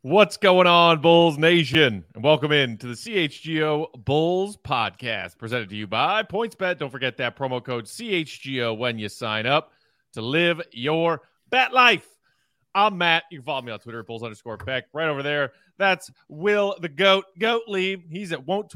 What's going on, Bulls Nation? And welcome in to the CHGO Bulls podcast, presented to you by PointsBet. Don't forget that promo code CHGO when you sign up to live your bet life. I'm Matt. You can follow me on Twitter at Bulls_Beck. Right over there, that's Will the Goat Gottlieb. He's at Won't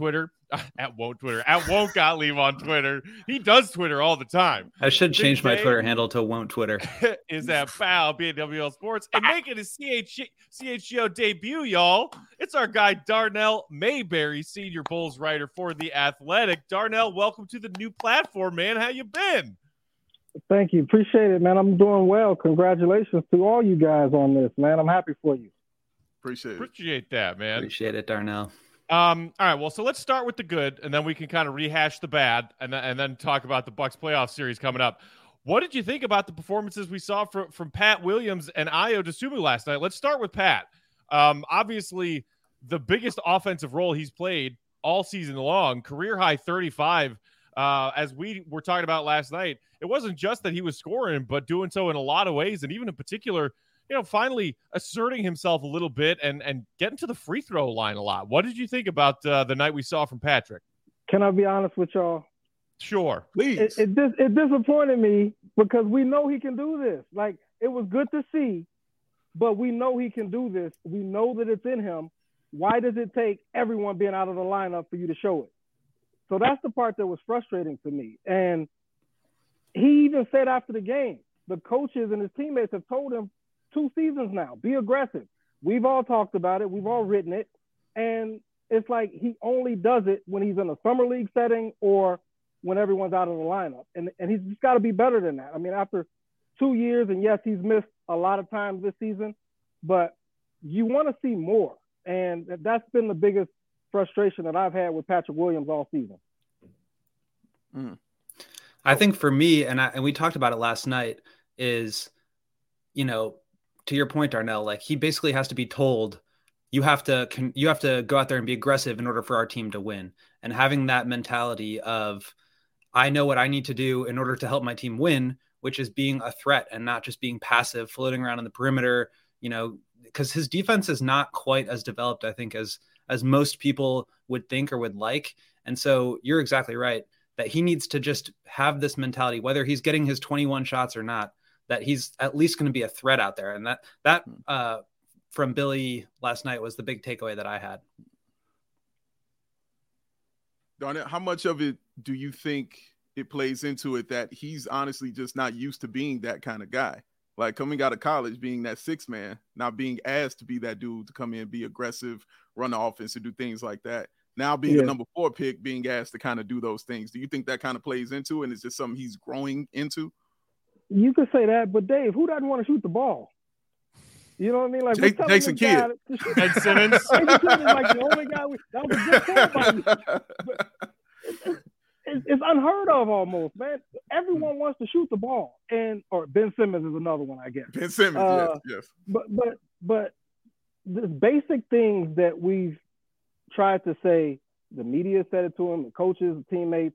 Gottlieb on Twitter. He does Twitter all the time. I should change my Twitter handle to Won't Twitter. Is at Bow BWL Sports and making his CHGO debut, y'all. It's our guy Darnell Mayberry, senior Bulls writer for The Athletic. Darnell, welcome to the new platform, man. How you been? Thank you. Appreciate it, man. I'm doing well. Congratulations to all you guys on this, man. I'm happy for you. Appreciate that, man. Appreciate it, Darnell. All right, well, so let's start with the good, and then we can kind of rehash the bad, and then talk about the Bucks playoff series coming up. What did you think about the performances we saw from Pat Williams and Ayo Dosunmu last night? Let's start with Pat. Obviously, the biggest offensive role he's played all season long, career-high 35. As we were talking about last night, it wasn't just that he was scoring, but doing so in a lot of ways, and even in particular, finally asserting himself a little bit and getting to the free throw line a lot. What did you think about the night we saw from Patrick? Can I be honest with y'all? Sure. Please. It disappointed me because we know he can do this. Like, it was good to see, but we know he can do this. We know that it's in him. Why does it take everyone being out of the lineup for you to show it? So that's the part that was frustrating to me. And he even said after the game, the coaches and his teammates have told him 2 seasons now, be aggressive. We've all talked about it. We've all written it. And it's like he only does it when he's in a summer league setting or when everyone's out of the lineup. And he's just got to be better than that. I mean, after 2 years, and yes, he's missed a lot of times this season, but you want to see more. And that's been the biggest frustration that I've had with Patrick Williams all season. I think for me, and we talked about it last night, is, to your point, Darnell, like he basically has to be told, you have to go out there and be aggressive in order for our team to win. And having that mentality of, I know what I need to do in order to help my team win, which is being a threat and not just being passive, floating around in the perimeter, because his defense is not quite as developed, I think, as most people would think or would like. And so you're exactly right that he needs to just have this mentality, whether he's getting his 21 shots or not, that he's at least going to be a threat out there. And that from Billy last night was the big takeaway that I had. Darnell, how much of it do you think it plays into it that he's honestly just not used to being that kind of guy? Like coming out of college, being that 6th man, not being asked to be that dude to come in, be aggressive, run the offense and do things like that. Now being a number 4 pick, being asked to kind of do those things. Do you think that kind of plays into it? And is this something he's growing into? You could say that, but Dave, who doesn't want to shoot the ball? You know what I mean? Like Jason Kidd. Ben Simmons. Jason Kidd is like the only guy. That was a good point by you. It's unheard of almost, man. Everyone wants to shoot the ball, or Ben Simmons is another one, I guess. Ben Simmons, yes. But the basic things that we've tried to say, the media said it to him, the coaches, the teammates,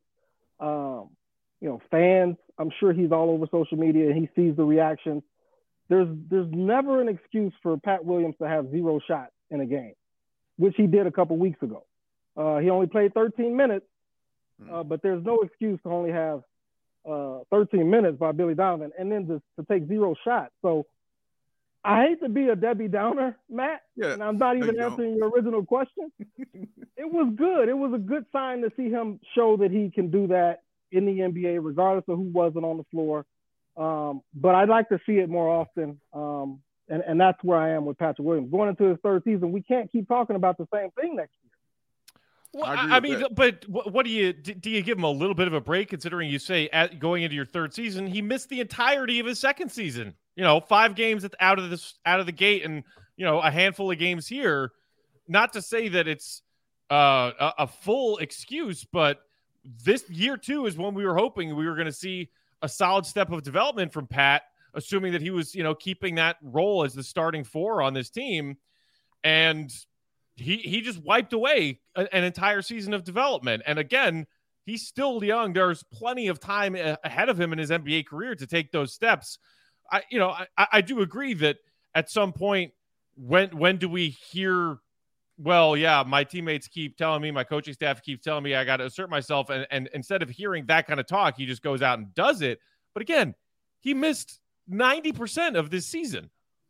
fans. I'm sure he's all over social media and he sees the reactions. There's never an excuse for Pat Williams to have 0 shots in a game, which he did a couple weeks ago. He only played 13 minutes, but there's no excuse to only have 13 minutes by Billy Donovan and then to take 0 shots. So I hate to be a Debbie Downer, Matt, and I'm not even answering your original question. It was good. It was a good sign to see him show that he can do that in the NBA, regardless of who wasn't on the floor. But I'd like to see it more often. And that's where I am with Patrick Williams. Going into his 3rd season, we can't keep talking about the same thing next year. Well, I mean, but what do you give him a little bit of a break, considering you say going into your 3rd season, he missed the entirety of his 2nd season, 5 games out of the gate and, a handful of games here. Not to say that it's a full excuse, but this year 2 is when we were hoping we were going to see a solid step of development from Pat, assuming that he was, keeping that role as the starting 4 on this team. And he just wiped away an entire season of development. And again, he's still young. There's plenty of time ahead of him in his NBA career to take those steps. I do agree that at some point when do we hear, well, yeah, my teammates keep telling me, my coaching staff keeps telling me I got to assert myself. And instead of hearing that kind of talk, he just goes out and does it. But again, he missed 90% of this season.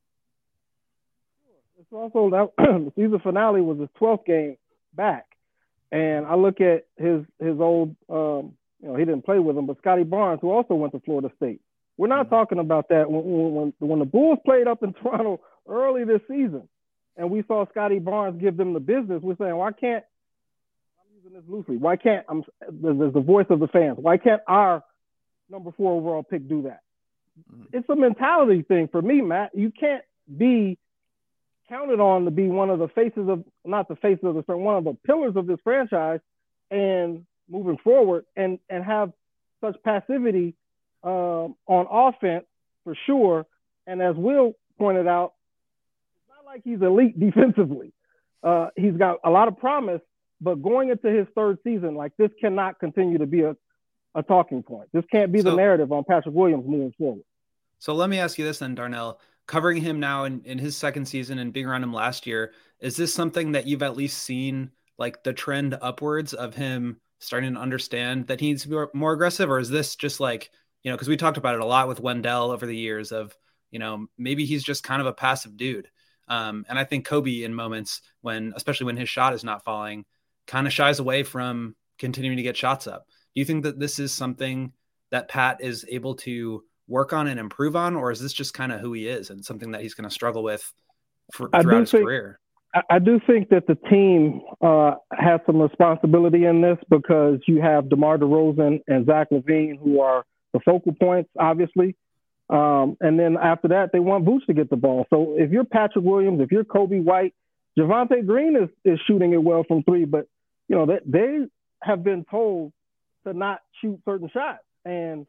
It's also that the season finale was his 12th game back. And I look at his old, he didn't play with him, but Scotty Barnes, who also went to Florida State. We're not talking about that. When the Bulls played up in Toronto early this season, and we saw Scotty Barnes give them the business, we're saying, why can't, I'm using this loosely, why can't, there's the voice of the fans, why can't our number 4 overall pick do that? It's a mentality thing for me, Matt. You can't be counted on to be one of the faces of, not the faces of the, one of the pillars of this franchise and moving forward and have such passivity on offense for sure. And as Will pointed out, it's not like he's elite defensively. He's got a lot of promise, but going into his 3rd season, like this cannot continue to be a talking point. This can't be the narrative on Patrick Williams moving forward. So let me ask you this then, Darnell. Covering him now in his 2nd season and being around him last year, is this something that you've at least seen, like the trend upwards of him starting to understand that he needs to be more aggressive? Or is this just like, because we talked about it a lot with Wendell over the years of, maybe he's just kind of a passive dude. And I think Kobe in moments especially when his shot is not falling, kind of shies away from continuing to get shots up. Do you think that this is something that Pat is able to work on and improve on, or is this just kind of who he is and something that he's going to struggle with throughout his career? I do think that the team has some responsibility in this because you have DeMar DeRozan and Zach LaVine, who are the focal points, obviously. And then after that, they want Vooch to get the ball. So if you're Patrick Williams, if you're Kobe White, Javonte Green is shooting it well from 3, but they have been told to not shoot certain shots and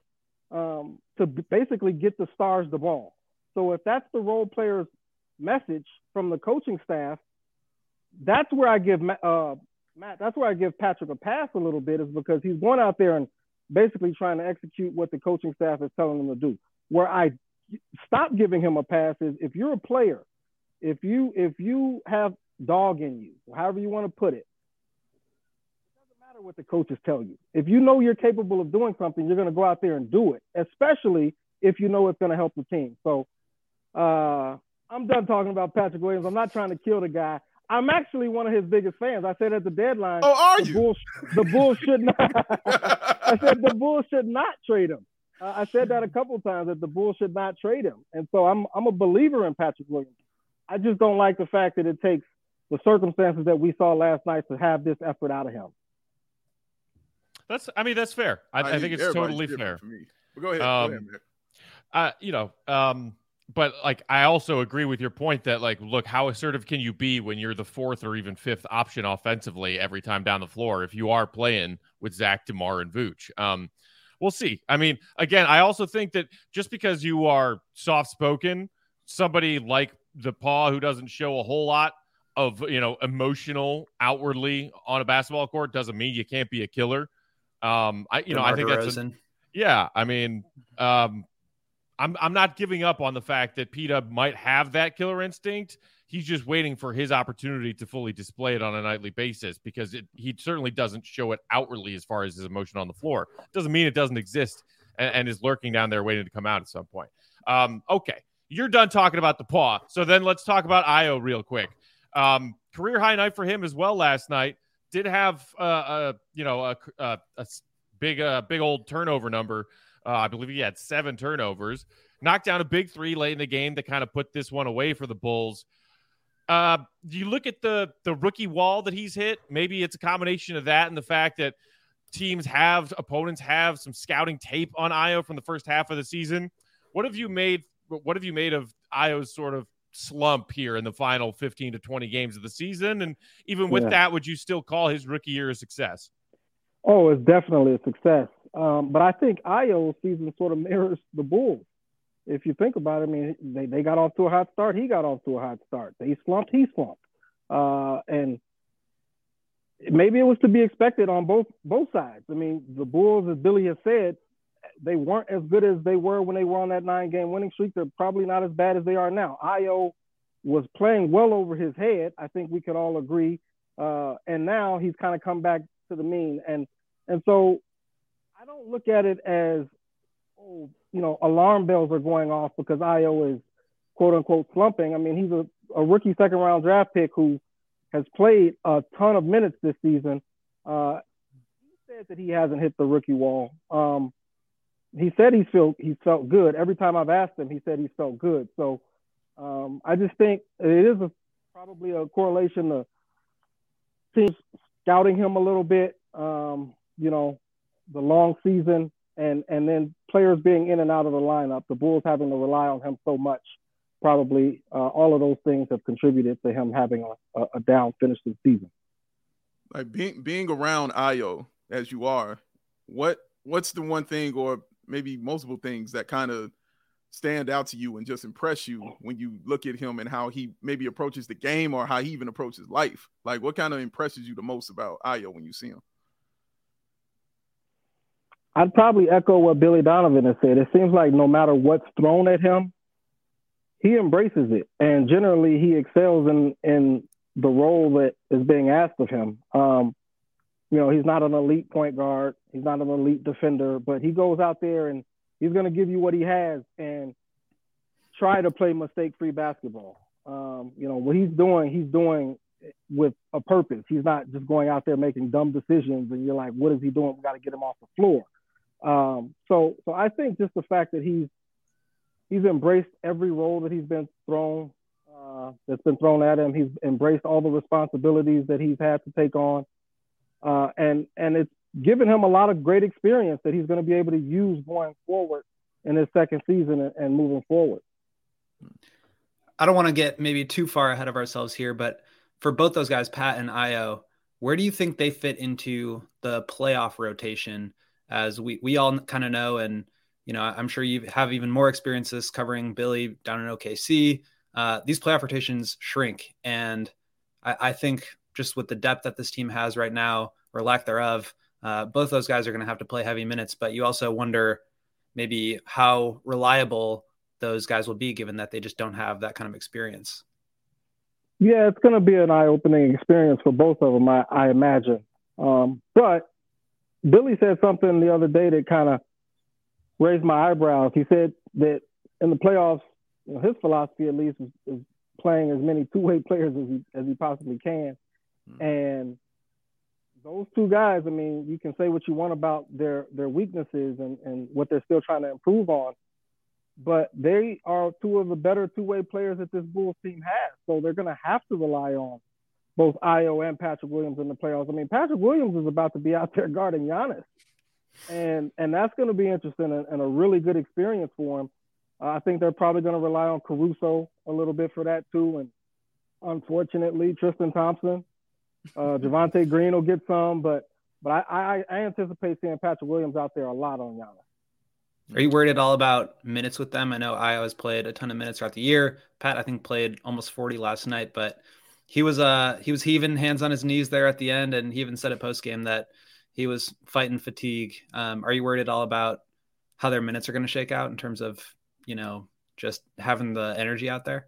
to basically get the stars the ball. So if that's the role player's message from the coaching staff, that's where I give Matt, that's where I give Patrick a pass a little bit, is because he's going out there and basically trying to execute what the coaching staff is telling him to do. Where I stop giving him a pass is if you're a player, if you have dog in you, however you want to put it, what the coaches tell you. If you know you're capable of doing something, you're going to go out there and do it, especially if you know it's going to help the team. So I'm done talking about Patrick Williams. I'm not trying to kill the guy. I'm actually one of his biggest fans. I said at the deadline, the Bulls should not. I said the Bulls should not trade him. I said that a couple of times, that the Bulls should not trade him. And so I'm a believer in Patrick Williams. I just don't like the fact that it takes the circumstances that we saw last night to have this effort out of him. That's fair. I think it's totally fair. For me. But go ahead, man. But like, I also agree with your point that, like, look, how assertive can you be when you're the 4th or even 5th option offensively every time down the floor if you are playing with Zach, DeMar, and Vooch? We'll see. I mean, again, I also think that just because you are soft-spoken, somebody like the Paw, who doesn't show a whole lot of, emotional outwardly on a basketball court, doesn't mean you can't be a killer. I think that's I'm not giving up on the fact that P-Dub might have that killer instinct. He's just waiting for his opportunity to fully display it on a nightly basis, because he certainly doesn't show it outwardly as far as his emotion on the floor. Doesn't mean it doesn't exist and is lurking down there waiting to come out at some point. Okay, you're done talking about the Paw. So then let's talk about Ayo real quick. Career high night for him as well last night. Did have a big old turnover number. I believe he had 7 turnovers. Knocked down a big 3 late in the game to kind of put this one away for the Bulls. Do you look at the rookie wall that he's hit? Maybe it's a combination of that and the fact that opponents have some scouting tape on Ayo from the first half of the season. What have you made of Ayo's sort of slump here in the final 15 to 20 games of the season? And even with that, would you still call his rookie year a success? Oh, it's definitely a success. But I think Ayo's season sort of mirrors the Bulls. If you think about it, I mean, they got off to a hot start. He got off to a hot start. They slumped. He slumped. And maybe it was to be expected on both sides. I mean, the Bulls, as Billy has said, they weren't as good as they were when they were on that 9-game winning streak. They're probably not as bad as they are now. Ayo was playing well over his head. I think we could all agree. And now he's kind of come back to the mean. And so I don't look at it as, alarm bells are going off because Ayo is quote unquote slumping. I mean, he's a rookie 2nd round draft pick who has played a ton of minutes this season. He said that he hasn't hit the rookie wall. He said he felt good. Every time I've asked him, he said he felt good. So I just think it is probably a correlation to teams scouting him a little bit, the long season and then players being in and out of the lineup, the Bulls having to rely on him so much. Probably all of those things have contributed to him having a down finish to the season. Like being around Ayo as you are, what's the one thing or maybe multiple things that kind of stand out to you and just impress you when you look at him and how he maybe approaches the game or how he even approaches life? Like what kind of impresses you the most about Ayo when you see him? I'd probably echo what Billy Donovan has said. It seems like no matter what's thrown at him, he embraces it. And generally he excels in the role that is being asked of him. He's not an elite point guard. He's not an elite defender, but he goes out there and he's going to give you what he has and try to play mistake-free basketball. What he's doing with a purpose. He's not just going out there making dumb decisions and you're like, what is he doing? We got to get him off the floor. So I think just the fact that he's embraced every role that he's been thrown, that's been thrown at him. He's embraced all the responsibilities that he's had to take on. And it's given him a lot of great experience that he's going to be able to use going forward in his second season and moving forward. I don't want to get maybe too far ahead of ourselves here, but for both those guys, Pat and Ayo, where do you think they fit into the playoff rotation? As we all kind of know, and I'm sure you have even more experiences covering Billy down in OKC. These playoff rotations shrink, and I think just with the depth that this team has right now, or lack thereof, both those guys are going to have to play heavy minutes. But you also wonder maybe how reliable those guys will be, given that they just don't have that kind of experience. Yeah, it's going to be an eye-opening experience for both of them, I imagine. But Billy said something the other day that kind of raised my eyebrows. He said that in the playoffs, his philosophy at least is playing as many two-way players as he possibly can. And those two guys, I mean, you can say what you want about their weaknesses and what they're still trying to improve on, but they are two of the better two-way players that this Bulls team has. So they're going to have to rely on both Ayo and Patrick Williams in the playoffs. I mean, Patrick Williams is about to be out there guarding Giannis. And that's going to be interesting and a really good experience for him. I think they're probably going to rely on Caruso a little bit for that too. And unfortunately, Tristan Thompson, Javonte Green will get some, but I anticipate seeing Patrick Williams out there a lot on Giannis. Are you worried at all about minutes with them? I know Ayo has played a ton of minutes throughout the year. Pat, I think, played almost 40 last night, but he was heaving hands on his knees there at the end, and he even said at postgame that he was fighting fatigue. Are you worried at all about how their minutes are going to shake out in terms of, just having the energy out there?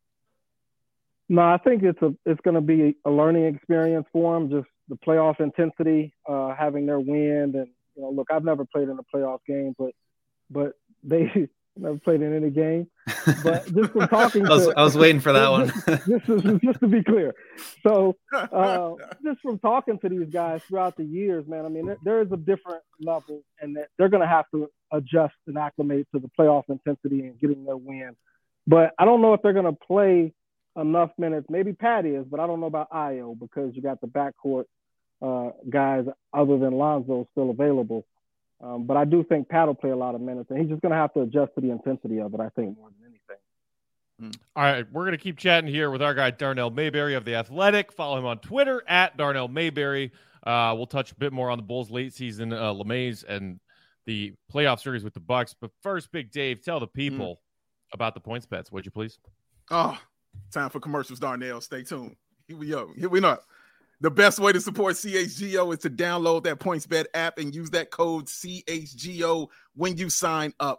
No, I think it's going to be a learning experience for them, just the playoff intensity, having their wind. And, look, I've never played in a playoff game, but they never played in any game. But just from talking I was waiting for that one. just to be clear. So just from talking to these guys throughout the years, man, I mean, there is a different level, and that they're going to have to adjust and acclimate to the playoff intensity and getting their win. But I don't know if they're going to play enough minutes. Maybe Pat is, but I don't know about Ayo because you got the backcourt guys other than Lonzo still available. But I do think Pat will play a lot of minutes, and he's just going to have to adjust to the intensity of it, I think, more than anything. All right, we're going to keep chatting here with our guy Darnell Mayberry of The Athletic. Follow him on Twitter at Darnell Mayberry. We'll touch a bit more on the Bulls' late season LeMays and the playoff series with the Bucks. But first, Big Dave, tell the people about the points bets, would you please? Oh, time for commercials, Darnell. Stay tuned. Here we go. The best way to support CHGO is to download that PointsBet app and use that code CHGO when you sign up.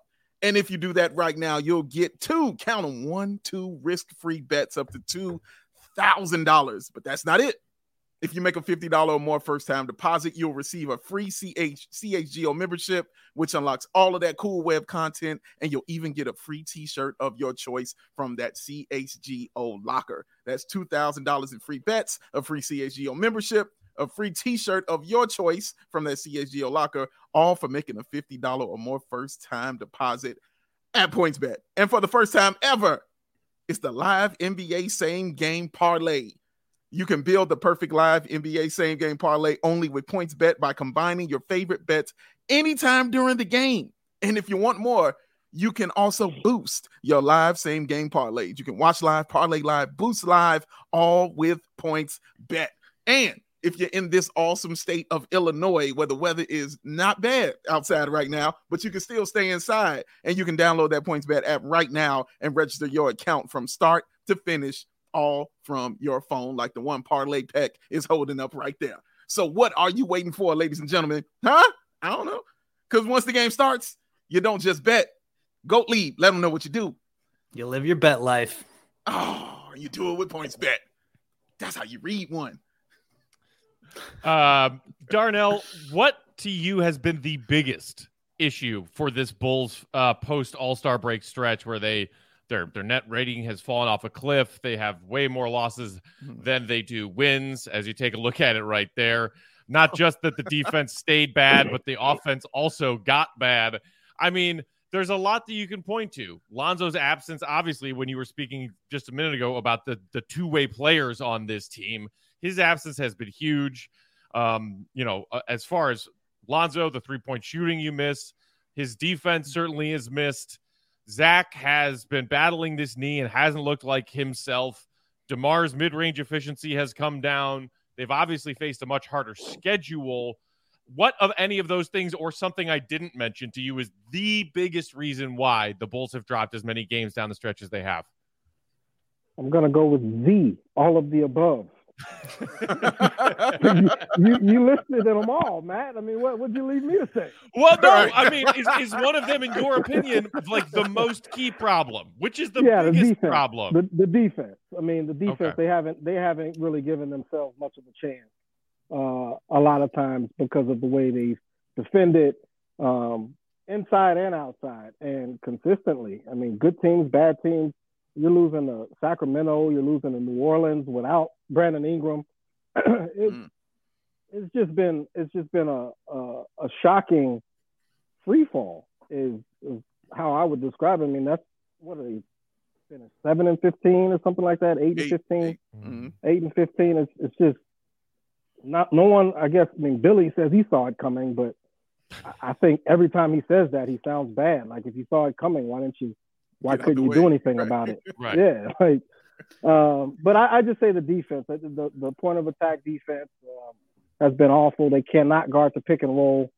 And if you do that right now, you'll get 2 risk-free bets up to $2,000. But that's not it. If you make a $50 or more first-time deposit, you'll receive a free CHGO membership, which unlocks all of that cool web content, and you'll even get a free t-shirt of your choice from that CHGO locker. That's $2,000 in free bets, a free CHGO membership, a free t-shirt of your choice from that CHGO locker, all for making a $50 or more first-time deposit at PointsBet. And for the first time ever, it's the live NBA same-game parlay. You can build the perfect live NBA same-game parlay only with PointsBet by combining your favorite bets anytime during the game. And if you want more, you can also boost your live same-game parlays. You can watch live, parlay live, boost live, all with PointsBet. And if you're in this awesome state of Illinois where the weather is not bad outside right now, but you can still stay inside, and you can download that PointsBet app right now and register your account from start to finish, all from your phone, like the one Parlay Peck is holding up right there. So what are you waiting for, ladies and gentlemen? Huh? I don't know. Because once the game starts, you don't just bet. Go lead. Let them know what you do. You live your bet life. Oh, you do it with PointsBet. That's how you read one. Darnell, what to you has been the biggest issue for this Bulls post All-Star break stretch where their net rating has fallen off a cliff? They have way more losses than they do wins, as you take a look at it right there. Not just that the defense stayed bad, but the offense also got bad. I mean, there's a lot that you can point to. Lonzo's absence, obviously, when you were speaking just a minute ago about the two-way players on this team, his absence has been huge. As far as Lonzo, the three-point shooting you miss, his defense certainly is missed. Zach has been battling this knee and hasn't looked like himself. DeMar's mid-range efficiency has come down. They've obviously faced a much harder schedule. What of any of those things, or something I didn't mention to you, is the biggest reason why the Bulls have dropped as many games down the stretch as they have? I'm going to go with Z, all of the above. you listed them all, Matt. I mean, what would you leave me to say? Well, no, I mean, is one of them, in your opinion, like the most key problem? Which is the biggest problem? The defense. I mean, the defense. Okay. They haven't really given themselves much of a chance. A lot of times because of the way they've defended inside and outside, and consistently. I mean, good teams, bad teams. You're losing to Sacramento. You're losing to New Orleans without Brandon Ingram. It's just been a shocking free fall is how I would describe it. I mean, that's what are they finished 7-15 or something like that, 8-15, 8-15. It's just not no one. I guess. I mean, Billy says he saw it coming, but I think every time he says that, he sounds bad. Like, if you saw it coming, why couldn't you do anything about it? Right. Yeah. But I just say the defense, the point of attack defense has been awful. They cannot guard the pick and roll.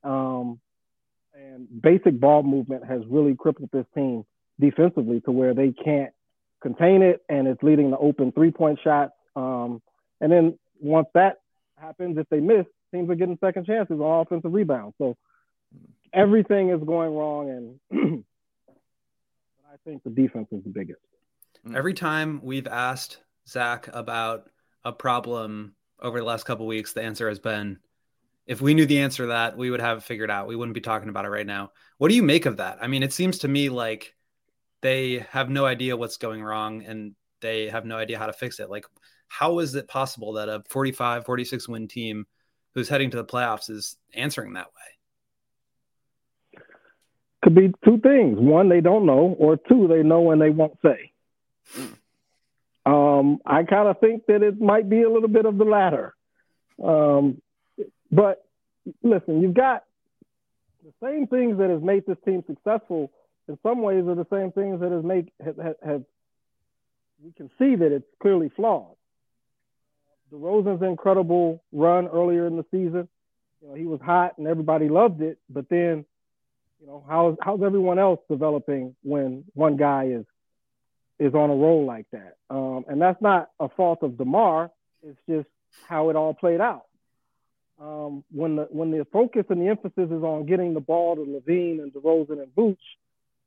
And basic ball movement has really crippled this team defensively to where they can't contain it, and it's leading to open 3-point shots. And then once that happens, if they miss, teams are getting second chances on offensive rebounds. So everything is going wrong, and I think the defense is the biggest. Every time we've asked Zach about a problem over the last couple of weeks, the answer has been, if we knew the answer to that, we would have it figured out. We wouldn't be talking about it right now. What do you make of that? I mean, it seems to me like they have no idea what's going wrong, and they have no idea how to fix it. Like, how is it possible that a 45, 46 win team who's heading to the playoffs is answering that way? Could be two things. One, they don't know, or two, they know and they won't say. I kind of think that it might be a little bit of the latter. But listen, you've got the same things that has made this team successful. In some ways, are the same things that have we can see that it's clearly flawed. DeRozan's incredible run earlier in the season, he was hot and everybody loved it. But then, how's everyone else developing when one guy is on a roll like that? And that's not a fault of DeMar. It's just how it all played out. When the focus and the emphasis is on getting the ball to Levine and DeRozan and Vooch,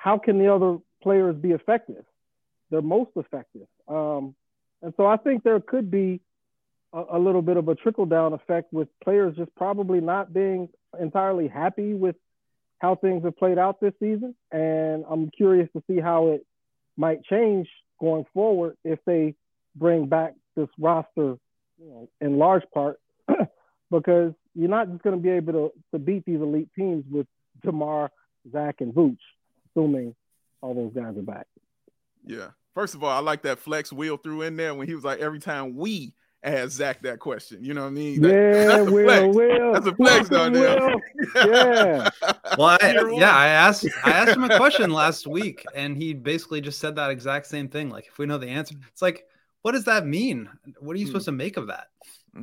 how can the other players be effective? They're most effective. And so I think there could be a little bit of a trickle-down effect with players just probably not being entirely happy with how things have played out this season. And I'm curious to see how it might change going forward if they bring back this roster, in large part, because you're not just going to be able to beat these elite teams with DeMar, Zach, and Vooch, assuming all those guys are back. Yeah. First of all, I like that flex Will threw in there when he was like, every time we ask Zach that question, you know what I mean? That's Will. That's a flex down there. Yeah. Well, I asked him a question last week, and he basically just said that exact same thing. Like, if we know the answer, it's like, what does that mean? What are you supposed to make of that?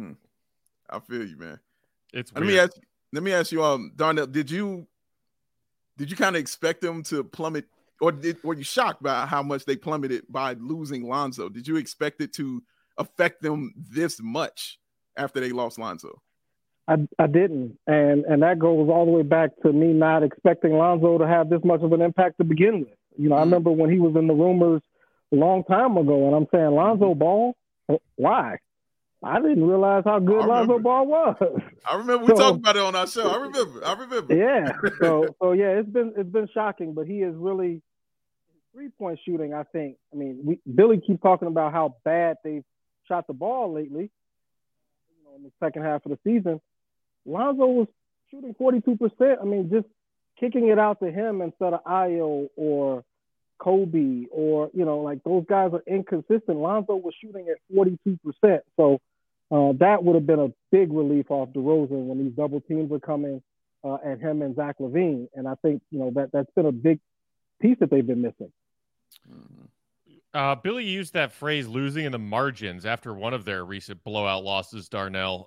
I feel you, man. It's weird. Let me ask you, Darnell, did you kind of expect them to plummet, or were you shocked by how much they plummeted by losing Lonzo? Did you expect it to affect them this much after they lost Lonzo? I didn't, and that goes all the way back to me not expecting Lonzo to have this much of an impact to begin with. I remember when he was in the rumors a long time ago, and I'm saying, Lonzo Ball? Why? I didn't realize how good Lonzo Ball was. I remember we talked about it on our show. I remember. Yeah. So yeah, it's been shocking, but he is really 3-point shooting. I think. I mean, Billy keeps talking about how bad they've shot the ball lately. In the second half of the season, Lonzo was shooting 42%. I mean, just kicking it out to him instead of Ayo or Kobe or, like those guys are inconsistent. Lonzo was shooting at 42%. So that would have been a big relief off DeRozan when these double teams are coming at him and Zach LaVine. And I think, that's been a big piece that they've been missing. Billy used that phrase losing in the margins after one of their recent blowout losses, Darnell.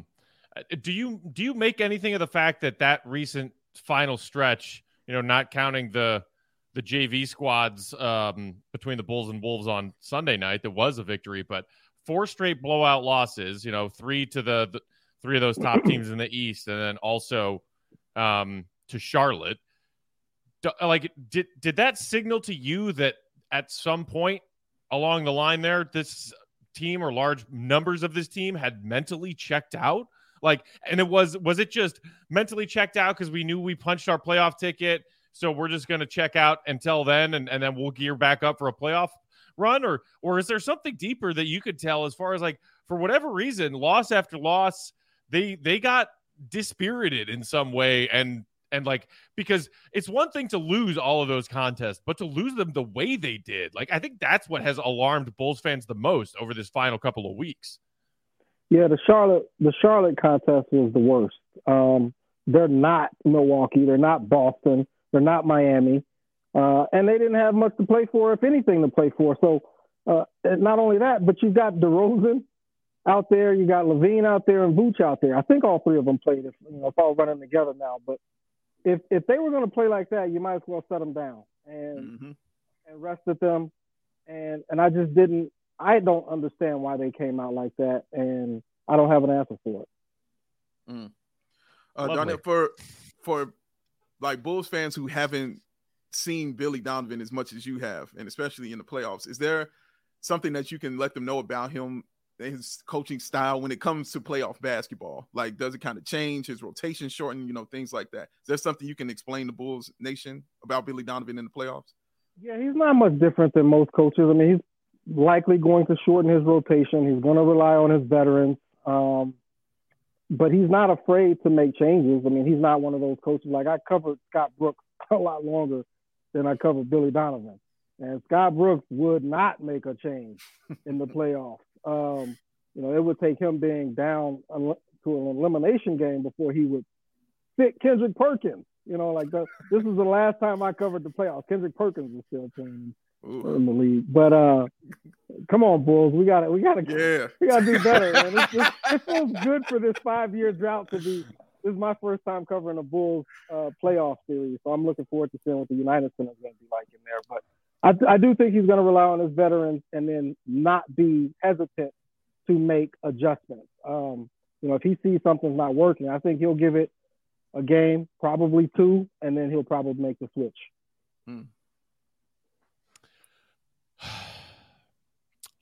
Do you make anything of the fact that recent final stretch, not counting the JV squads between the Bulls and Wolves on Sunday night, that was a victory, but 4 straight blowout losses, 3 to the 3 of those top teams in the East, and then also to Charlotte. Like, did that signal to you that at some point along the line there, this team or large numbers of this team had mentally checked out? Like, and was it just mentally checked out because we knew we punched our playoff ticket, so we're just going to check out until then, and then we'll gear back up for a playoff run? Or is there something deeper that you could tell as far as, like, for whatever reason, loss after loss, they got dispirited in some way, and like, because it's one thing to lose all of those contests, but to lose them the way they did, like, I think that's what has alarmed Bulls fans the most over this final couple of weeks. Yeah, the Charlotte contest was the worst. They're not Milwaukee, they're not Boston, they're not Miami, and they didn't have much to play for, if anything to play for. So not only that, but you've got DeRozan out there, you got LaVine out there, and Vooch out there. I think all 3 of them played. It's all running together now, but if they were going to play like that, you might as well set them down and rested them. And I don't understand why they came out like that, and I don't have an answer for it. Darnell, for like Bulls fans who haven't seen Billy Donovan as much as you have, and especially in the playoffs, is there something that you can let them know about him, his coaching style when it comes to playoff basketball? Like, does it kind of change, his rotation shorten, things like that? Is there something you can explain to Bulls Nation about Billy Donovan in the playoffs? Yeah, he's not much different than most coaches. I mean, he's likely going to shorten his rotation. He's going to rely on his veterans. But he's not afraid to make changes. I mean, he's not one of those coaches. Like, I covered Scott Brooks a lot longer than I covered Billy Donovan. And Scott Brooks would not make a change in the playoffs. It would take him being down to an elimination game before he would sit Kendrick Perkins. This is the last time I covered the playoffs. Kendrick Perkins was still playing in the league. But come on, Bulls, we gotta do better, man. It feels good for this 5-year drought to be. This is my first time covering a Bulls playoff series, so I'm looking forward to seeing what the United Center is going to be like in there. But I do think he's going to rely on his veterans and then not be hesitant to make adjustments. If he sees something's not working, I think he'll give it a game, probably 2, and then he'll probably make the switch.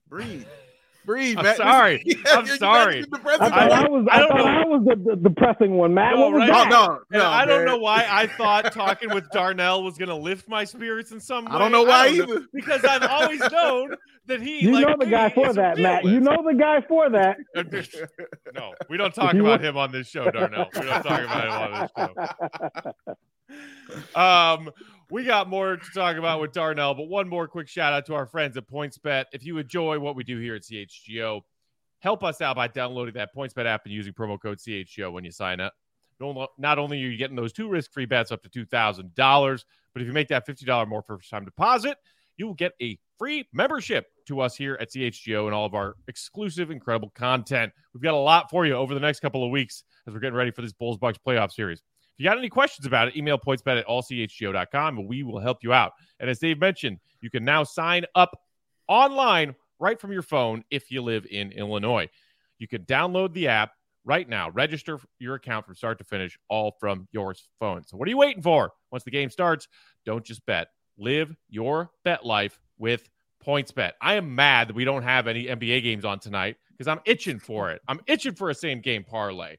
Breathe, I'm Matt. sorry. I'm sorry. I was the depressing one, Matt. No, what was right? that? No, I don't know why I thought talking with Darnell was going to lift my spirits in some way. I don't know why either. Because I've always known that he. You know the guy for that, Matt. You know the guy for that. No, we don't talk about him on this show, Darnell. We don't talk about him on this show. We got more to talk about with Darnell, but one more quick shout out to our friends at PointsBet. If you enjoy what we do here at CHGO, help us out by downloading that PointsBet app and using promo code CHGO when you sign up. Not only are you getting those 2 risk-free bets up to $2,000, but if you make that $50 more first-time deposit, you will get a free membership to us here at CHGO and all of our exclusive, incredible content. We've got a lot for you over the next couple of weeks as we're getting ready for this Bulls-Bucks playoff series. If you got any questions about it, email pointsbet@allchgo.com, and we will help you out. And as Dave mentioned, you can now sign up online right from your phone if you live in Illinois. You can download the app right now. Register your account from start to finish, all from your phone. So what are you waiting for? Once the game starts, don't just bet. Live your bet life with PointsBet. I am mad that we don't have any NBA games on tonight because I'm itching for it. I'm itching for a same-game parlay.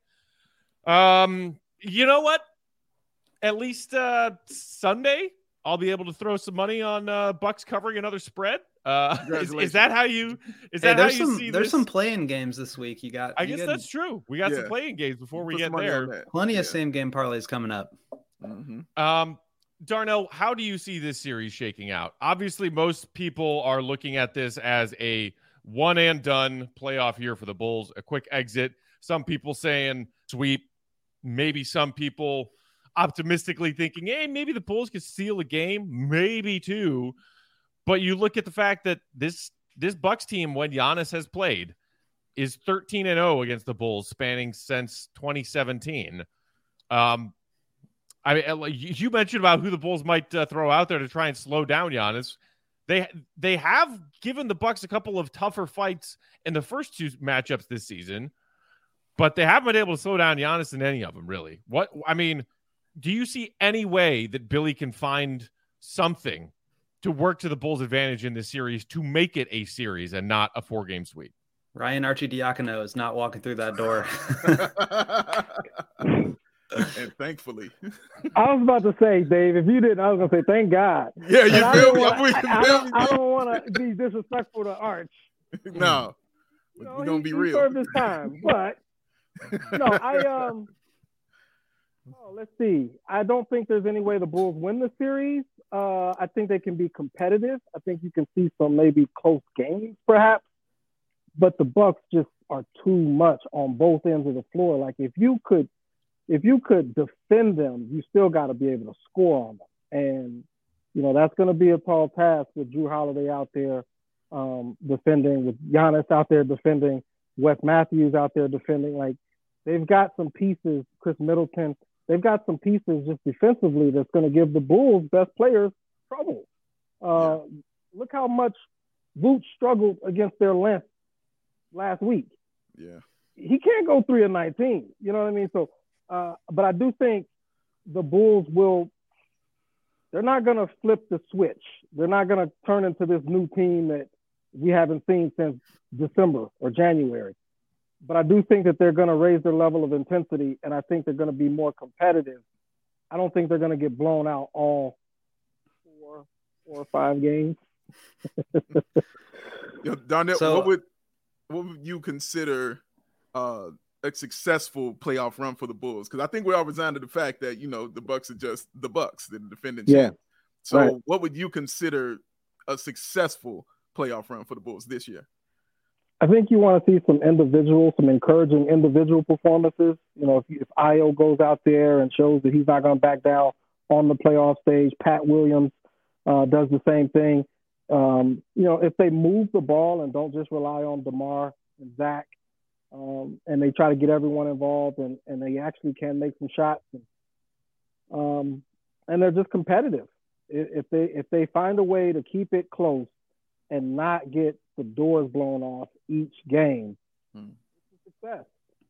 You know what? At least Sunday, I'll be able to throw some money on Bucks covering another spread. Is that how you? Is that how you see? There's some playing games this week. I guess that's true. We got some playing games before we get there. Plenty of same game parlays coming up. Mm-hmm. Darnell, how do you see this series shaking out? Obviously, most people are looking at this as a one and done playoff year for the Bulls, a quick exit. Some people saying sweep. Maybe some people optimistically thinking, hey, maybe the Bulls could steal a game, maybe two. But you look at the fact that this Bucks team, when Giannis has played, is 13-0 against the Bulls, spanning since 2017. I mean, you mentioned about who the Bulls might throw out there to try and slow down Giannis. They have given the Bucks a couple of tougher fights in the first 2 matchups this season, but they haven't been able to slow down Giannis in any of them, really. Do you see any way that Billy can find something to work to the Bulls' advantage in this series to make it a series and not a 4-game sweep? Ryan Arcidiacono is not walking through that door. And thankfully. I was about to say, Dave, if you didn't, I was going to say, thank God. Yeah, you feel me? I don't want to be disrespectful to Arch. No. We're going to be real. He served his time, but no, let's see. I don't think there's any way the Bulls win the series. I think they can be competitive. I think you can see some maybe close games, perhaps. But the Bucks just are too much on both ends of the floor. Like if you could defend them, you still got to be able to score on them. And that's going to be a tall task with Jrue Holiday out there defending, with Giannis out there defending, Wes Matthews out there defending. Like they've got some pieces, Chris Middleton. They've got some pieces just defensively that's going to give the Bulls' best players trouble. Look how much Vooch struggled against their length last week. Yeah, he can't go 3 of 19. You know what I mean? So, but I do think the Bulls will. They're not going to flip the switch. They're not going to turn into this new team that we haven't seen since December or January. But I do think that they're going to raise their level of intensity, and I think they're going to be more competitive. I don't think they're going to get blown out all 4 or 5 games. Darnell, what would you consider a successful playoff run for the Bulls? Because I think we're all resigned to the fact that the Bucks are just the Bucks, the defending champ. So, What would you consider a successful playoff run for the Bulls this year? I think you want to see some encouraging individual performances. If Ayo goes out there and shows that he's not going to back down on the playoff stage, Pat Williams does the same thing. If they move the ball and don't just rely on DeMar and Zach, and they try to get everyone involved and they actually can make some shots, and they're just competitive. If they find a way to keep it close and not get the doors blown off each game, it's a success.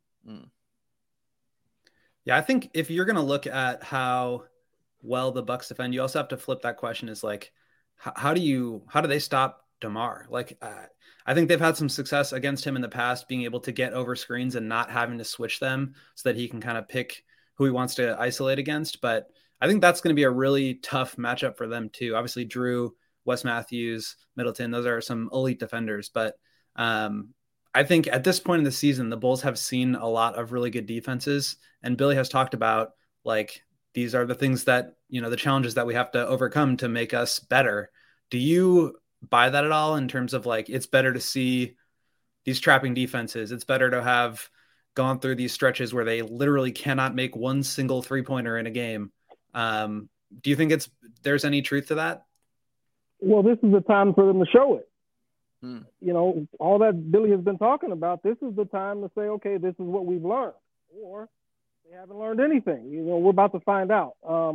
Yeah, I think if you're going to look at how well the Bucks defend, you also have to flip that question as like, how do they stop DeMar. Like, I think they've had some success against him in the past, being able to get over screens and not having to switch them so that he can kind of pick who he wants to isolate against. But I think that's going to be a really tough matchup for them too. Obviously, Drew, Wes Matthews, Middleton, those are some elite defenders. But I think at this point in the season, the Bulls have seen a lot of really good defenses. And Billy has talked about, like, these are the things that, the challenges that we have to overcome to make us better. Do you buy that at all in terms of, like, it's better to see these trapping defenses? It's better to have gone through these stretches where they literally cannot make one single 3-pointer in a game. Do you think there's any truth to that? Well, this is the time for them to show it. All that Billy has been talking about, this is the time to say, okay, this is what we've learned. Or they haven't learned anything. We're about to find out.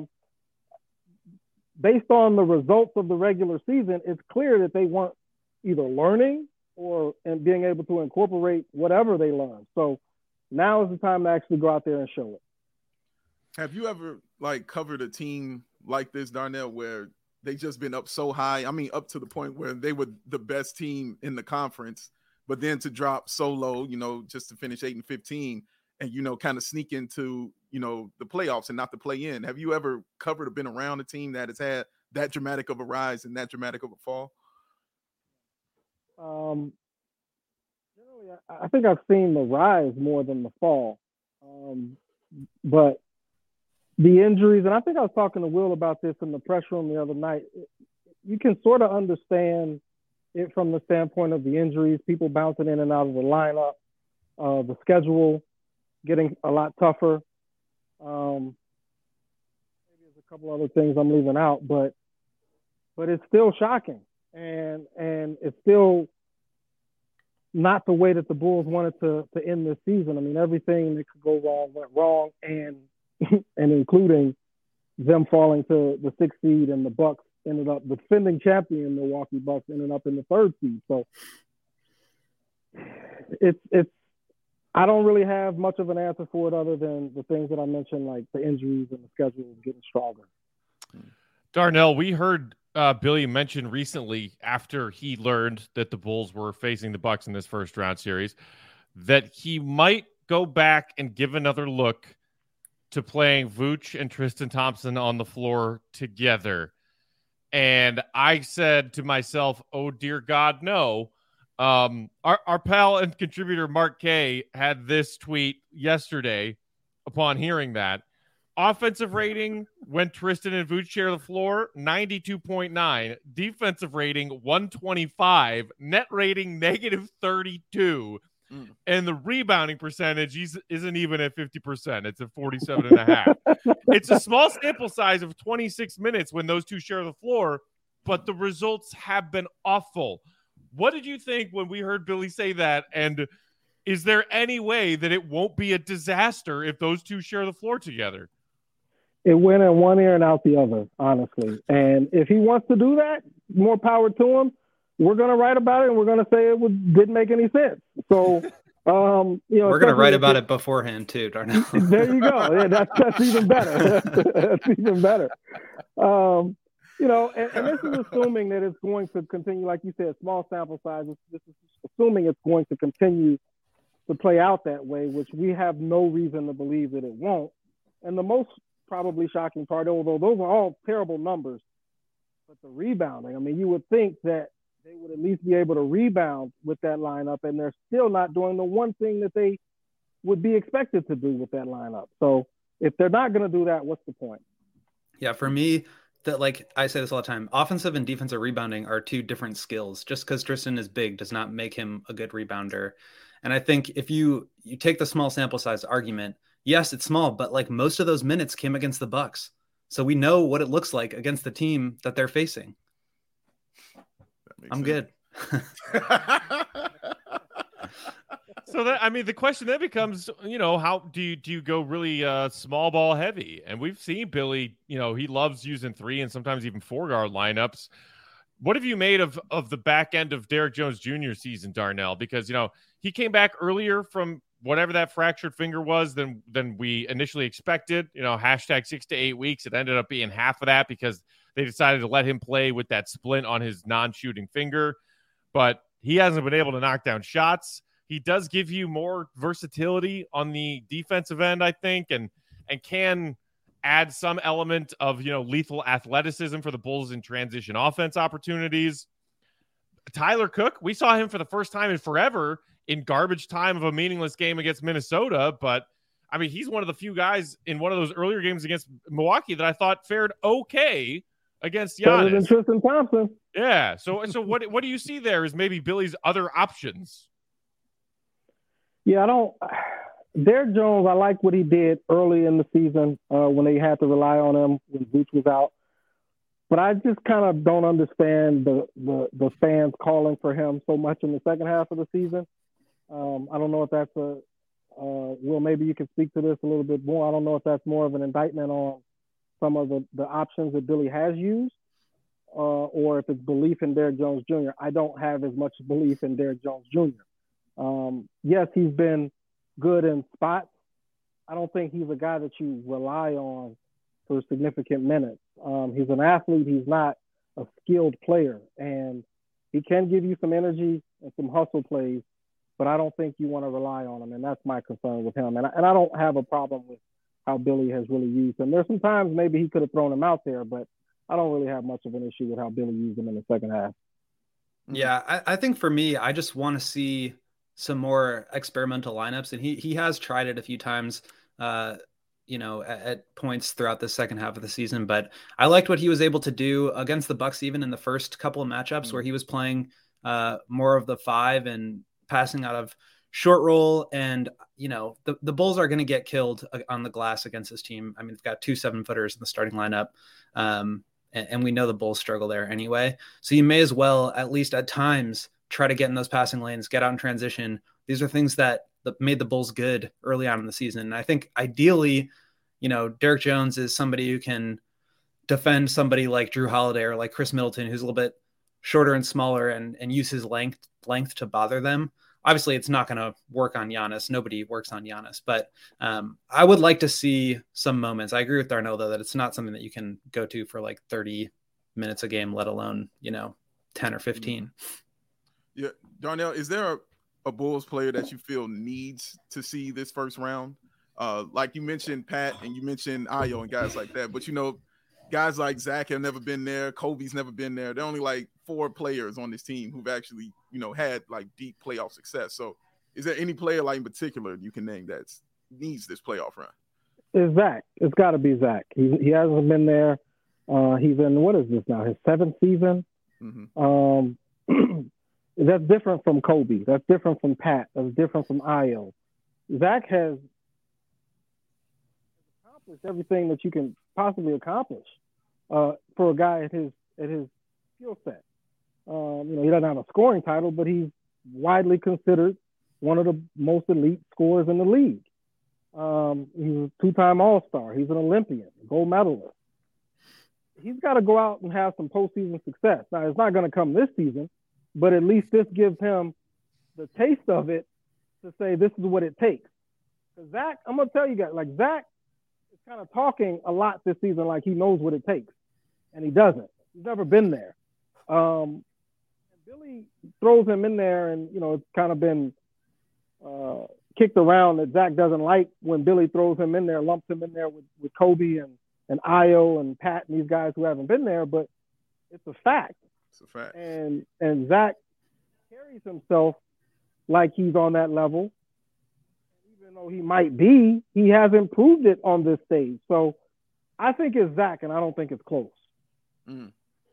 Based on the results of the regular season, it's clear that they weren't either learning and being able to incorporate whatever they learned. So now is the time to actually go out there and show it. Have you ever covered a team like this, Darnell, where they just been up so high? I mean, up to the point where they were the best team in the conference, but then to drop so low, just to finish 8-15 and, kind of sneak into, the playoffs and not the play in. Have you ever covered or been around a team that has had that dramatic of a rise and that dramatic of a fall? Generally, I think I've seen the rise more than the fall. But the injuries, and I think I was talking to Will about this in the press room the other night, you can sort of understand it from the standpoint of the injuries, people bouncing in and out of the lineup, the schedule getting a lot tougher. Maybe there's a couple other things I'm leaving out, but it's still shocking. And it's still not the way that the Bulls wanted to end this season. I mean, everything that could go wrong went wrong, and including them falling to the 6th seed, and the Bucks ended up, the defending champion Milwaukee Bucks ended up in the 3rd seed. So it's I don't really have much of an answer for it other than the things that I mentioned, like the injuries and the schedule getting stronger. Darnell, we heard Billy mention recently, after he learned that the Bulls were facing the Bucks in this first round series, that he might go back and give another look to playing Vooch and Tristan Thompson on the floor together. And I said to myself, oh, dear God, no. Our pal and contributor Mark K had this tweet yesterday upon hearing that. Offensive rating when Tristan and Vooch share the floor, 92.9. Defensive rating, 125. Net rating, -32. And the rebounding percentage isn't even at 50%. It's at 47.5. It's a small sample size of 26 minutes when those two share the floor, but the results have been awful. What did you think when we heard Billy say that? And is there any way that it won't be a disaster if those two share the floor together? It went in one ear and out the other, honestly. And if he wants to do that, more power to him. We're going to write about it, and we're going to say didn't make any sense. So, we're going to write about it beforehand too, Darnell. There you go. Yeah, that's even better. That's even better. And this is assuming that it's going to continue, like you said, small sample size. This is assuming it's going to continue to play out that way, which we have no reason to believe that it won't. And the most probably shocking part, although those are all terrible numbers, but the rebounding, I mean, you would think that they would at least be able to rebound with that lineup, and they're still not doing the one thing that they would be expected to do with that lineup. So if they're not going to do that, what's the point? Yeah, for me, that, like I say this all the time, offensive and defensive rebounding are two different skills. Just because Tristan is big does not make him a good rebounder. And I think if you take the small sample size argument, yes, it's small, but like most of those minutes came against the Bucks. So we know what it looks like against the team that they're facing. I'm good. So the question then becomes, how do you go really small ball heavy? And we've seen Billy, he loves using 3 and sometimes even 4-guard lineups. What have you made of the back end of Derrick Jones Jr. season, Darnell? Because, he came back earlier from whatever that fractured finger was than we initially expected, hashtag 6 to 8 weeks. It ended up being half of that because they decided to let him play with that splint on his non-shooting finger. but he hasn't been able to knock down shots. He does give you more versatility on the defensive end, I think, and can add some element of, lethal athleticism for the Bulls in transition offense opportunities. Tyler Cook, we saw him for the first time in forever in garbage time of a meaningless game against Minnesota, but I mean, he's one of the few guys in one of those earlier games against Milwaukee that I thought fared okay against Giannis. Better than Tristan Thompson. Yeah. So what do you see there as maybe Billy's other options? Yeah, Derrick Jones, I like what he did early in the season when they had to rely on him when Vooch was out. But I just kind of don't understand the fans calling for him so much in the second half of the season. I don't know if that's Will, maybe you can speak to this a little bit more. I don't know if that's more of an indictment on some of the options that Billy has used or if it's belief in Derrick Jones Jr. I don't have as much belief in Derrick Jones Jr. Yes, he's been good in spots. I don't think he's a guy that you rely on for significant minutes. He's an athlete. He's not a skilled player. And he can give you some energy and some hustle plays, but I don't think you want to rely on him. And that's my concern with him. And I don't have a problem with how Billy has really used him. There's some times maybe he could have thrown him out there, but I don't really have much of an issue with how Billy used him in the second half. Yeah, I think for me, I just want to see some more experimental lineups. And he has tried it a few times, at points throughout the second half of the season. But I liked what he was able to do against the Bucks, even in the first couple of matchups where he was playing more of the 5 and passing out of short roll. And, the Bulls are going to get killed on the glass against this team. I mean, they've got 2 7-footers in the starting lineup. And we know the Bulls struggle there anyway. So you may as well, at least at times, try to get in those passing lanes, get out in transition. These are things that made the Bulls good early on in the season. And I think ideally, Derrick Jones is somebody who can defend somebody like Drew Holiday or like Chris Middleton, who's a little bit shorter and smaller and use his length to bother them. Obviously, it's not going to work on Giannis. Nobody works on Giannis. But I would like to see some moments. I agree with Darnell, though, that it's not something that you can go to for like 30 minutes a game, let alone, 10 or 15. Yeah. Darnell, is there a Bulls player that you feel needs to see this first round? Like you mentioned Pat and you mentioned Ayo and guys like that. But, guys like Zach have never been there. Kobe's never been there. There are only like 4 players on this team who've actually, had like deep playoff success. So is there any player like in particular you can name that needs this playoff run? It's Zach. It's got to be Zach. He hasn't been there. He's in, what is this now, his 7th season? Mm-hmm. That's different from Kobe. That's different from Pat. That's different from Ayo. Zach has accomplished everything that you can possibly accomplish for a guy at his skill set. He doesn't have a scoring title, but he's widely considered one of the most elite scorers in the league. He's a 2-time All-Star. He's an Olympian, gold medalist. He's got to go out and have some postseason success. Now, it's not going to come this season, but at least this gives him the taste of it to say this is what it takes. Because Zach, I'm going to tell you guys, like Zach is kind of talking a lot this season like he knows what it takes, and he doesn't. He's never been there. And Billy throws him in there, and, it's kind of been kicked around that Zach doesn't like when Billy throws him in there, lumps him in there with Kobe and Ayo and Pat and these guys who haven't been there, but it's a fact. It's a fact. And Zach carries himself like he's on that level. Even though he might be, he hasn't proved it on this stage. So I think it's Zach, and I don't think it's close. Mm.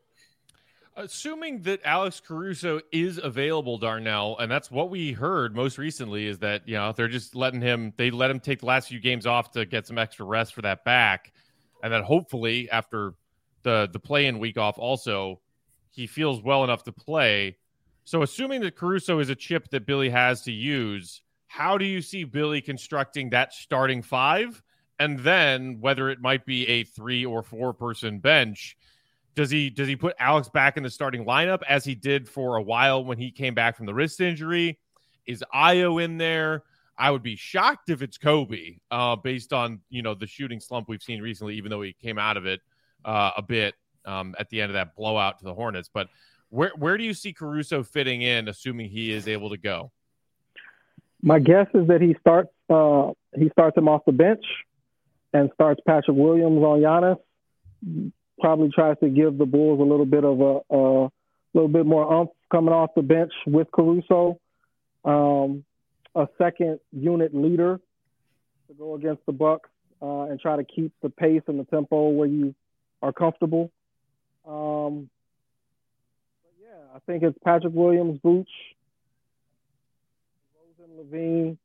Assuming that Alex Caruso is available, Darnell, and that's what we heard most recently is that, they're just let him take the last few games off to get some extra rest for that back. And then hopefully after the play-in week off also, he feels well enough to play. So assuming that Caruso is a chip that Billy has to use, how do you see Billy constructing that starting 5? And then whether it might be a 3 or 4 person bench, does he put Alex back in the starting lineup as he did for a while when he came back from the wrist injury? Is Ayo in there? I would be shocked if it's Kobe, based on, the shooting slump we've seen recently, even though he came out of it a bit at the end of that blowout to the Hornets. But Where do you see Caruso fitting in, assuming he is able to go? My guess is that he starts him off the bench and starts Patrick Williams on Giannis. Probably tries to give the Bulls a little bit of a little bit more oomph coming off the bench with Caruso. A second unit leader to go against the Bucks and try to keep the pace and the tempo where you are comfortable. But yeah, I think it's Patrick Williams, Vooch, Rosen, Levine,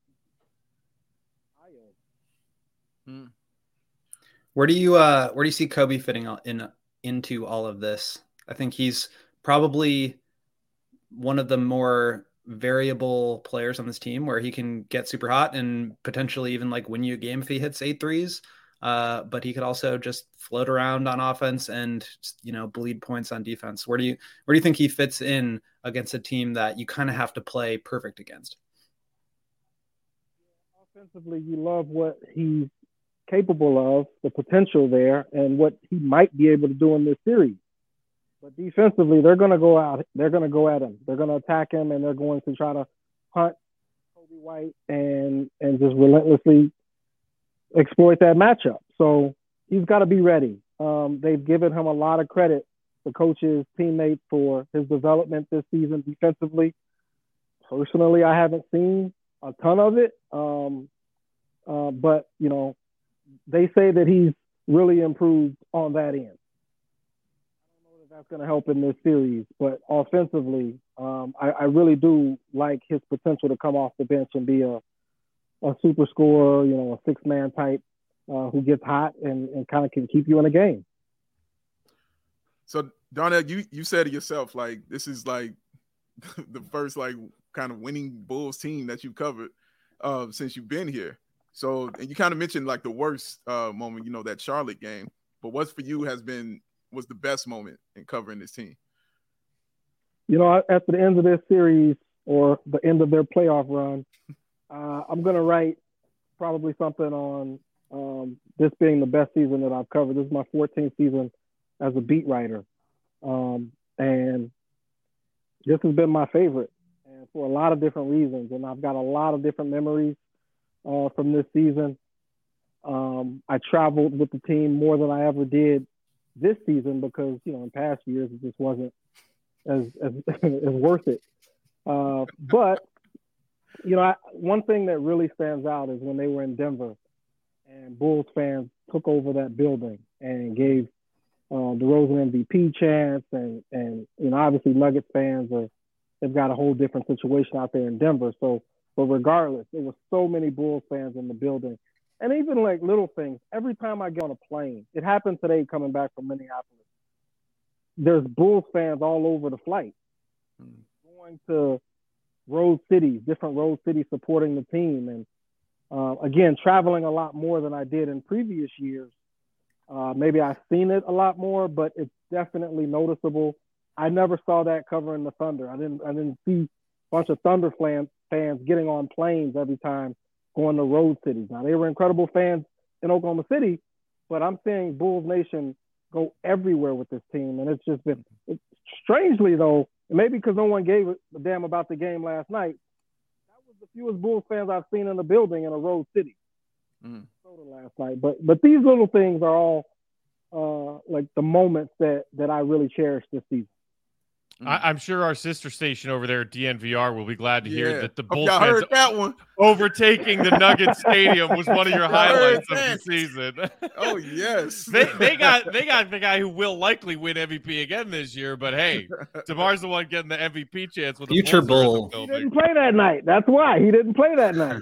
Ayo. Where do you see Kobe fitting into all of this? I think he's probably one of the more variable players on this team, where he can get super hot and potentially even like win you a game if he hits 8 threes. But he could also just float around on offense and, bleed points on defense. Where do you think he fits in against a team that you kind of have to play perfect against? Offensively, you love what he's capable of, the potential there, and what he might be able to do in this series. But defensively, they're going to go out. They're going to go at him. They're going to attack him, and they're going to try to hunt Kobe White and just relentlessly exploit that matchup. So he's got to be ready. They've given him a lot of credit, the coaches, teammates, for his development this season defensively. Personally, I haven't seen a ton of it, but they say that he's really improved on that end. That's going to help in this series, but offensively, I really do like his potential to come off the bench and be a super scorer, a 6-man type who gets hot and kind of can keep you in a game. So, Darnell, you said it yourself, like this is like the first like kind of winning Bulls team that you've covered since you've been here. So, and you kind of mentioned like the worst moment, that Charlotte game, but what's for you was the best moment in covering this team? After the end of this series or the end of their playoff run, I'm going to write probably something on this being the best season that I've covered. This is my 14th season as a beat writer. And this has been my favorite, and for a lot of different reasons. And I've got a lot of different memories from this season. I traveled with the team more than I ever did this season because, in past years, it just wasn't as worth it. But, one thing that really stands out is when they were in Denver and Bulls fans took over that building and gave DeRozan MVP chance. And obviously Nuggets fans they've got a whole different situation out there in Denver. But regardless, there were so many Bulls fans in the building. And even like little things, every time I get on a plane, it happened today coming back from Minneapolis, there's Bulls fans all over the flight, going to different road cities supporting the team. And again, traveling a lot more than I did in previous years. Maybe I've seen it a lot more, but it's definitely noticeable. I never saw that covering the Thunder. I didn't see a bunch of Thunder fans getting on planes every time going to road cities. Now, they were incredible fans in Oklahoma City, but I'm seeing Bulls Nation go everywhere with this team. And it's just been strangely, though, maybe because no one gave a damn about the game last night, that was the fewest Bulls fans I've seen in the building in a road city. Last night. But these little things are all like the moments that I really cherish this season. I'm sure our sister station over there at DNVR will be glad to hear that the Bulls fans heard that one. Overtaking the Nuggets Stadium was one of your highlights of the season. Oh yes, they got the guy who will likely win MVP again this year. But hey, DeMar's the one getting the MVP chance with future Bull. He didn't play that night. That's why he didn't play that night.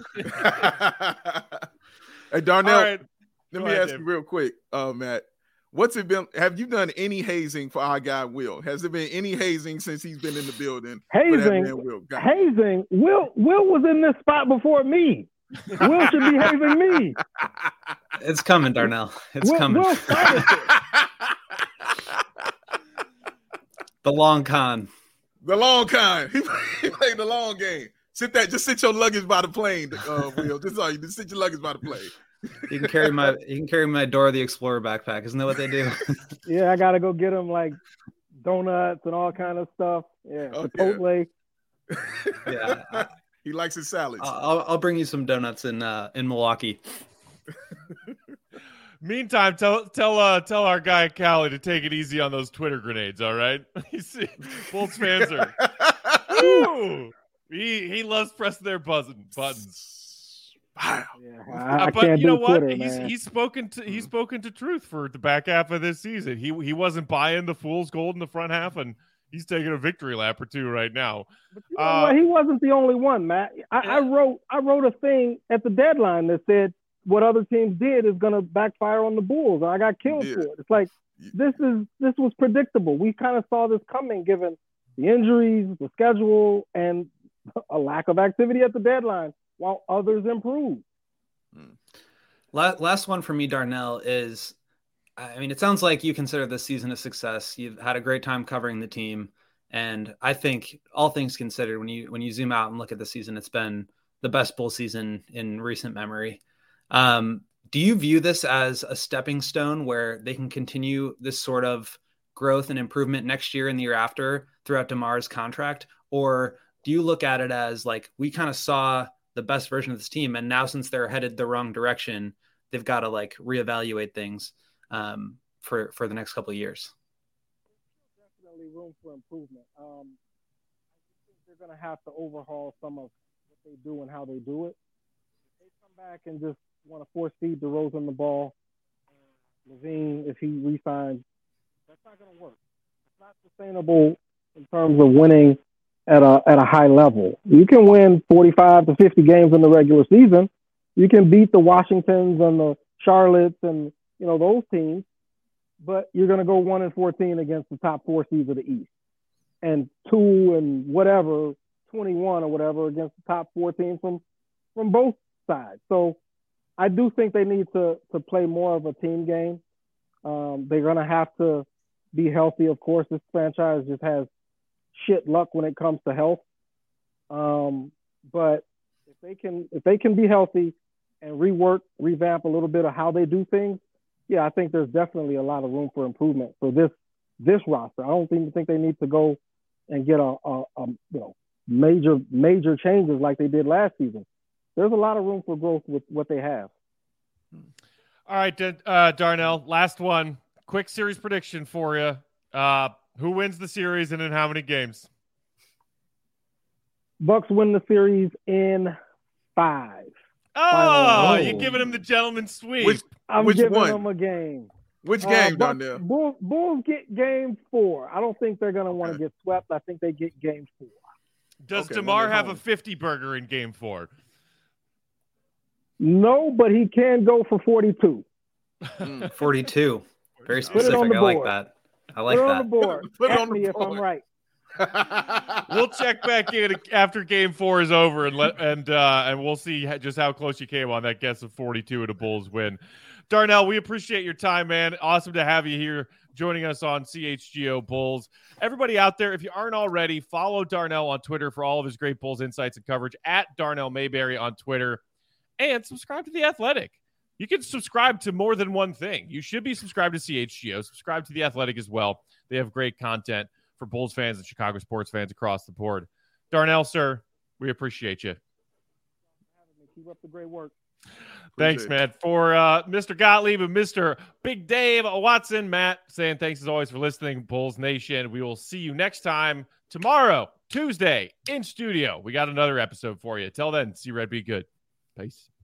Hey Darnell, right. let me ask you real quick, Matt. What's it been? Have you done any hazing for our guy Will? Has there been any hazing since he's been in the building? Hazing. Will was in this spot before me. Will should be hazing me. It's coming, Darnell. It's coming. Will started The long con. He played the long game. Just sit your luggage by the plane, Will. Just sit your luggage by the plane. You can carry my Dora the Explorer backpack. Isn't that what they do? Yeah, I gotta go get him like donuts and all kind of stuff. Yeah, Chipotle. Yeah, he likes his salads. I'll bring you some donuts in Milwaukee. Meantime, tell our guy Callie to take it easy on those Twitter grenades. All right, Bulls fans are. He loves pressing their buttons. Yeah, but you know what? Twitter, he's spoken to truth for the back half of this season. He wasn't buying the fool's gold in the front half, and he's taking a victory lap or two right now. But you know what? He wasn't the only one, Matt. I wrote a thing at the deadline that said what other teams did is going to backfire on the Bulls. I got killed for it. It's like this was predictable. We kind of saw this coming, given the injuries, the schedule, and a lack of activity at the deadline, while others improve. Last one for me, Darnell, is, I mean, it sounds like you consider this season a success. You've had a great time covering the team. And I think all things considered, when you zoom out and look at the season, it's been the best Bull season in recent memory. Do you view this as a stepping stone where they can continue this sort of growth and improvement next year and the year after throughout DeMar's contract? Or do you look at it as like, we kind of saw the best version of this team, and now since they're headed the wrong direction, they've got to like reevaluate things for the next couple of years? Definitely room for improvement. I think they're going to have to overhaul some of what they do and how they do it. If they come back and just want to force feed DeRozan the ball, Levine, if he re-signs, that's not going to work. It's not sustainable in terms of winning at a high level. You can win 45 to 50 games in the regular season. You can beat the Washingtons and the Charlottes and those teams, but you're going to go 1-14 against the top 4 seeds of the East, and 2-21 or whatever against the top 4 teams from both sides. So I do think they need to play more of a team game. They're going to have to be healthy. Of course, this franchise just has shit luck when it comes to health. But if they can be healthy and revamp a little bit of how they do things, yeah, I think there's definitely a lot of room for improvement for this roster. I don't even think they need to go and get major changes like they did last season. There's a lot of room for growth with what they have. All right, Darnell, last one. Quick series prediction for you. Who wins the series and in how many games? Bucks win the series in 5. Oh, you're giving him the gentleman's sweep. I'm giving them a game. Which game, Darnell? Bulls get game 4. I don't think they're going to want to get swept. I think they get game 4. Does DeMar have a 50-burger in game 4? No, but he can go for 42. 42. Very specific. I like that. Put it on the board. Ask me if I'm right. We'll check back in after game 4 is over and we'll see just how close you came on that guess of 42 and a Bulls win. Darnell, we appreciate your time, man. Awesome to have you here joining us on CHGO Bulls. Everybody out there, if you aren't already, follow Darnell on Twitter for all of his great Bulls insights and coverage at Darnell Mayberry on Twitter, and subscribe to The Athletic. You can subscribe to more than one thing. You should be subscribed to CHGO. Subscribe to The Athletic as well. They have great content for Bulls fans and Chicago sports fans across the board. Darnell, sir, we appreciate you. Keep up the great work. Thanks, man. For Mr. Gottlieb and Mr. Big Dave Watson, Matt, saying thanks as always for listening, Bulls Nation. We will see you next time tomorrow, Tuesday, in studio. We got another episode for you. Till then, see Red, be good. Peace.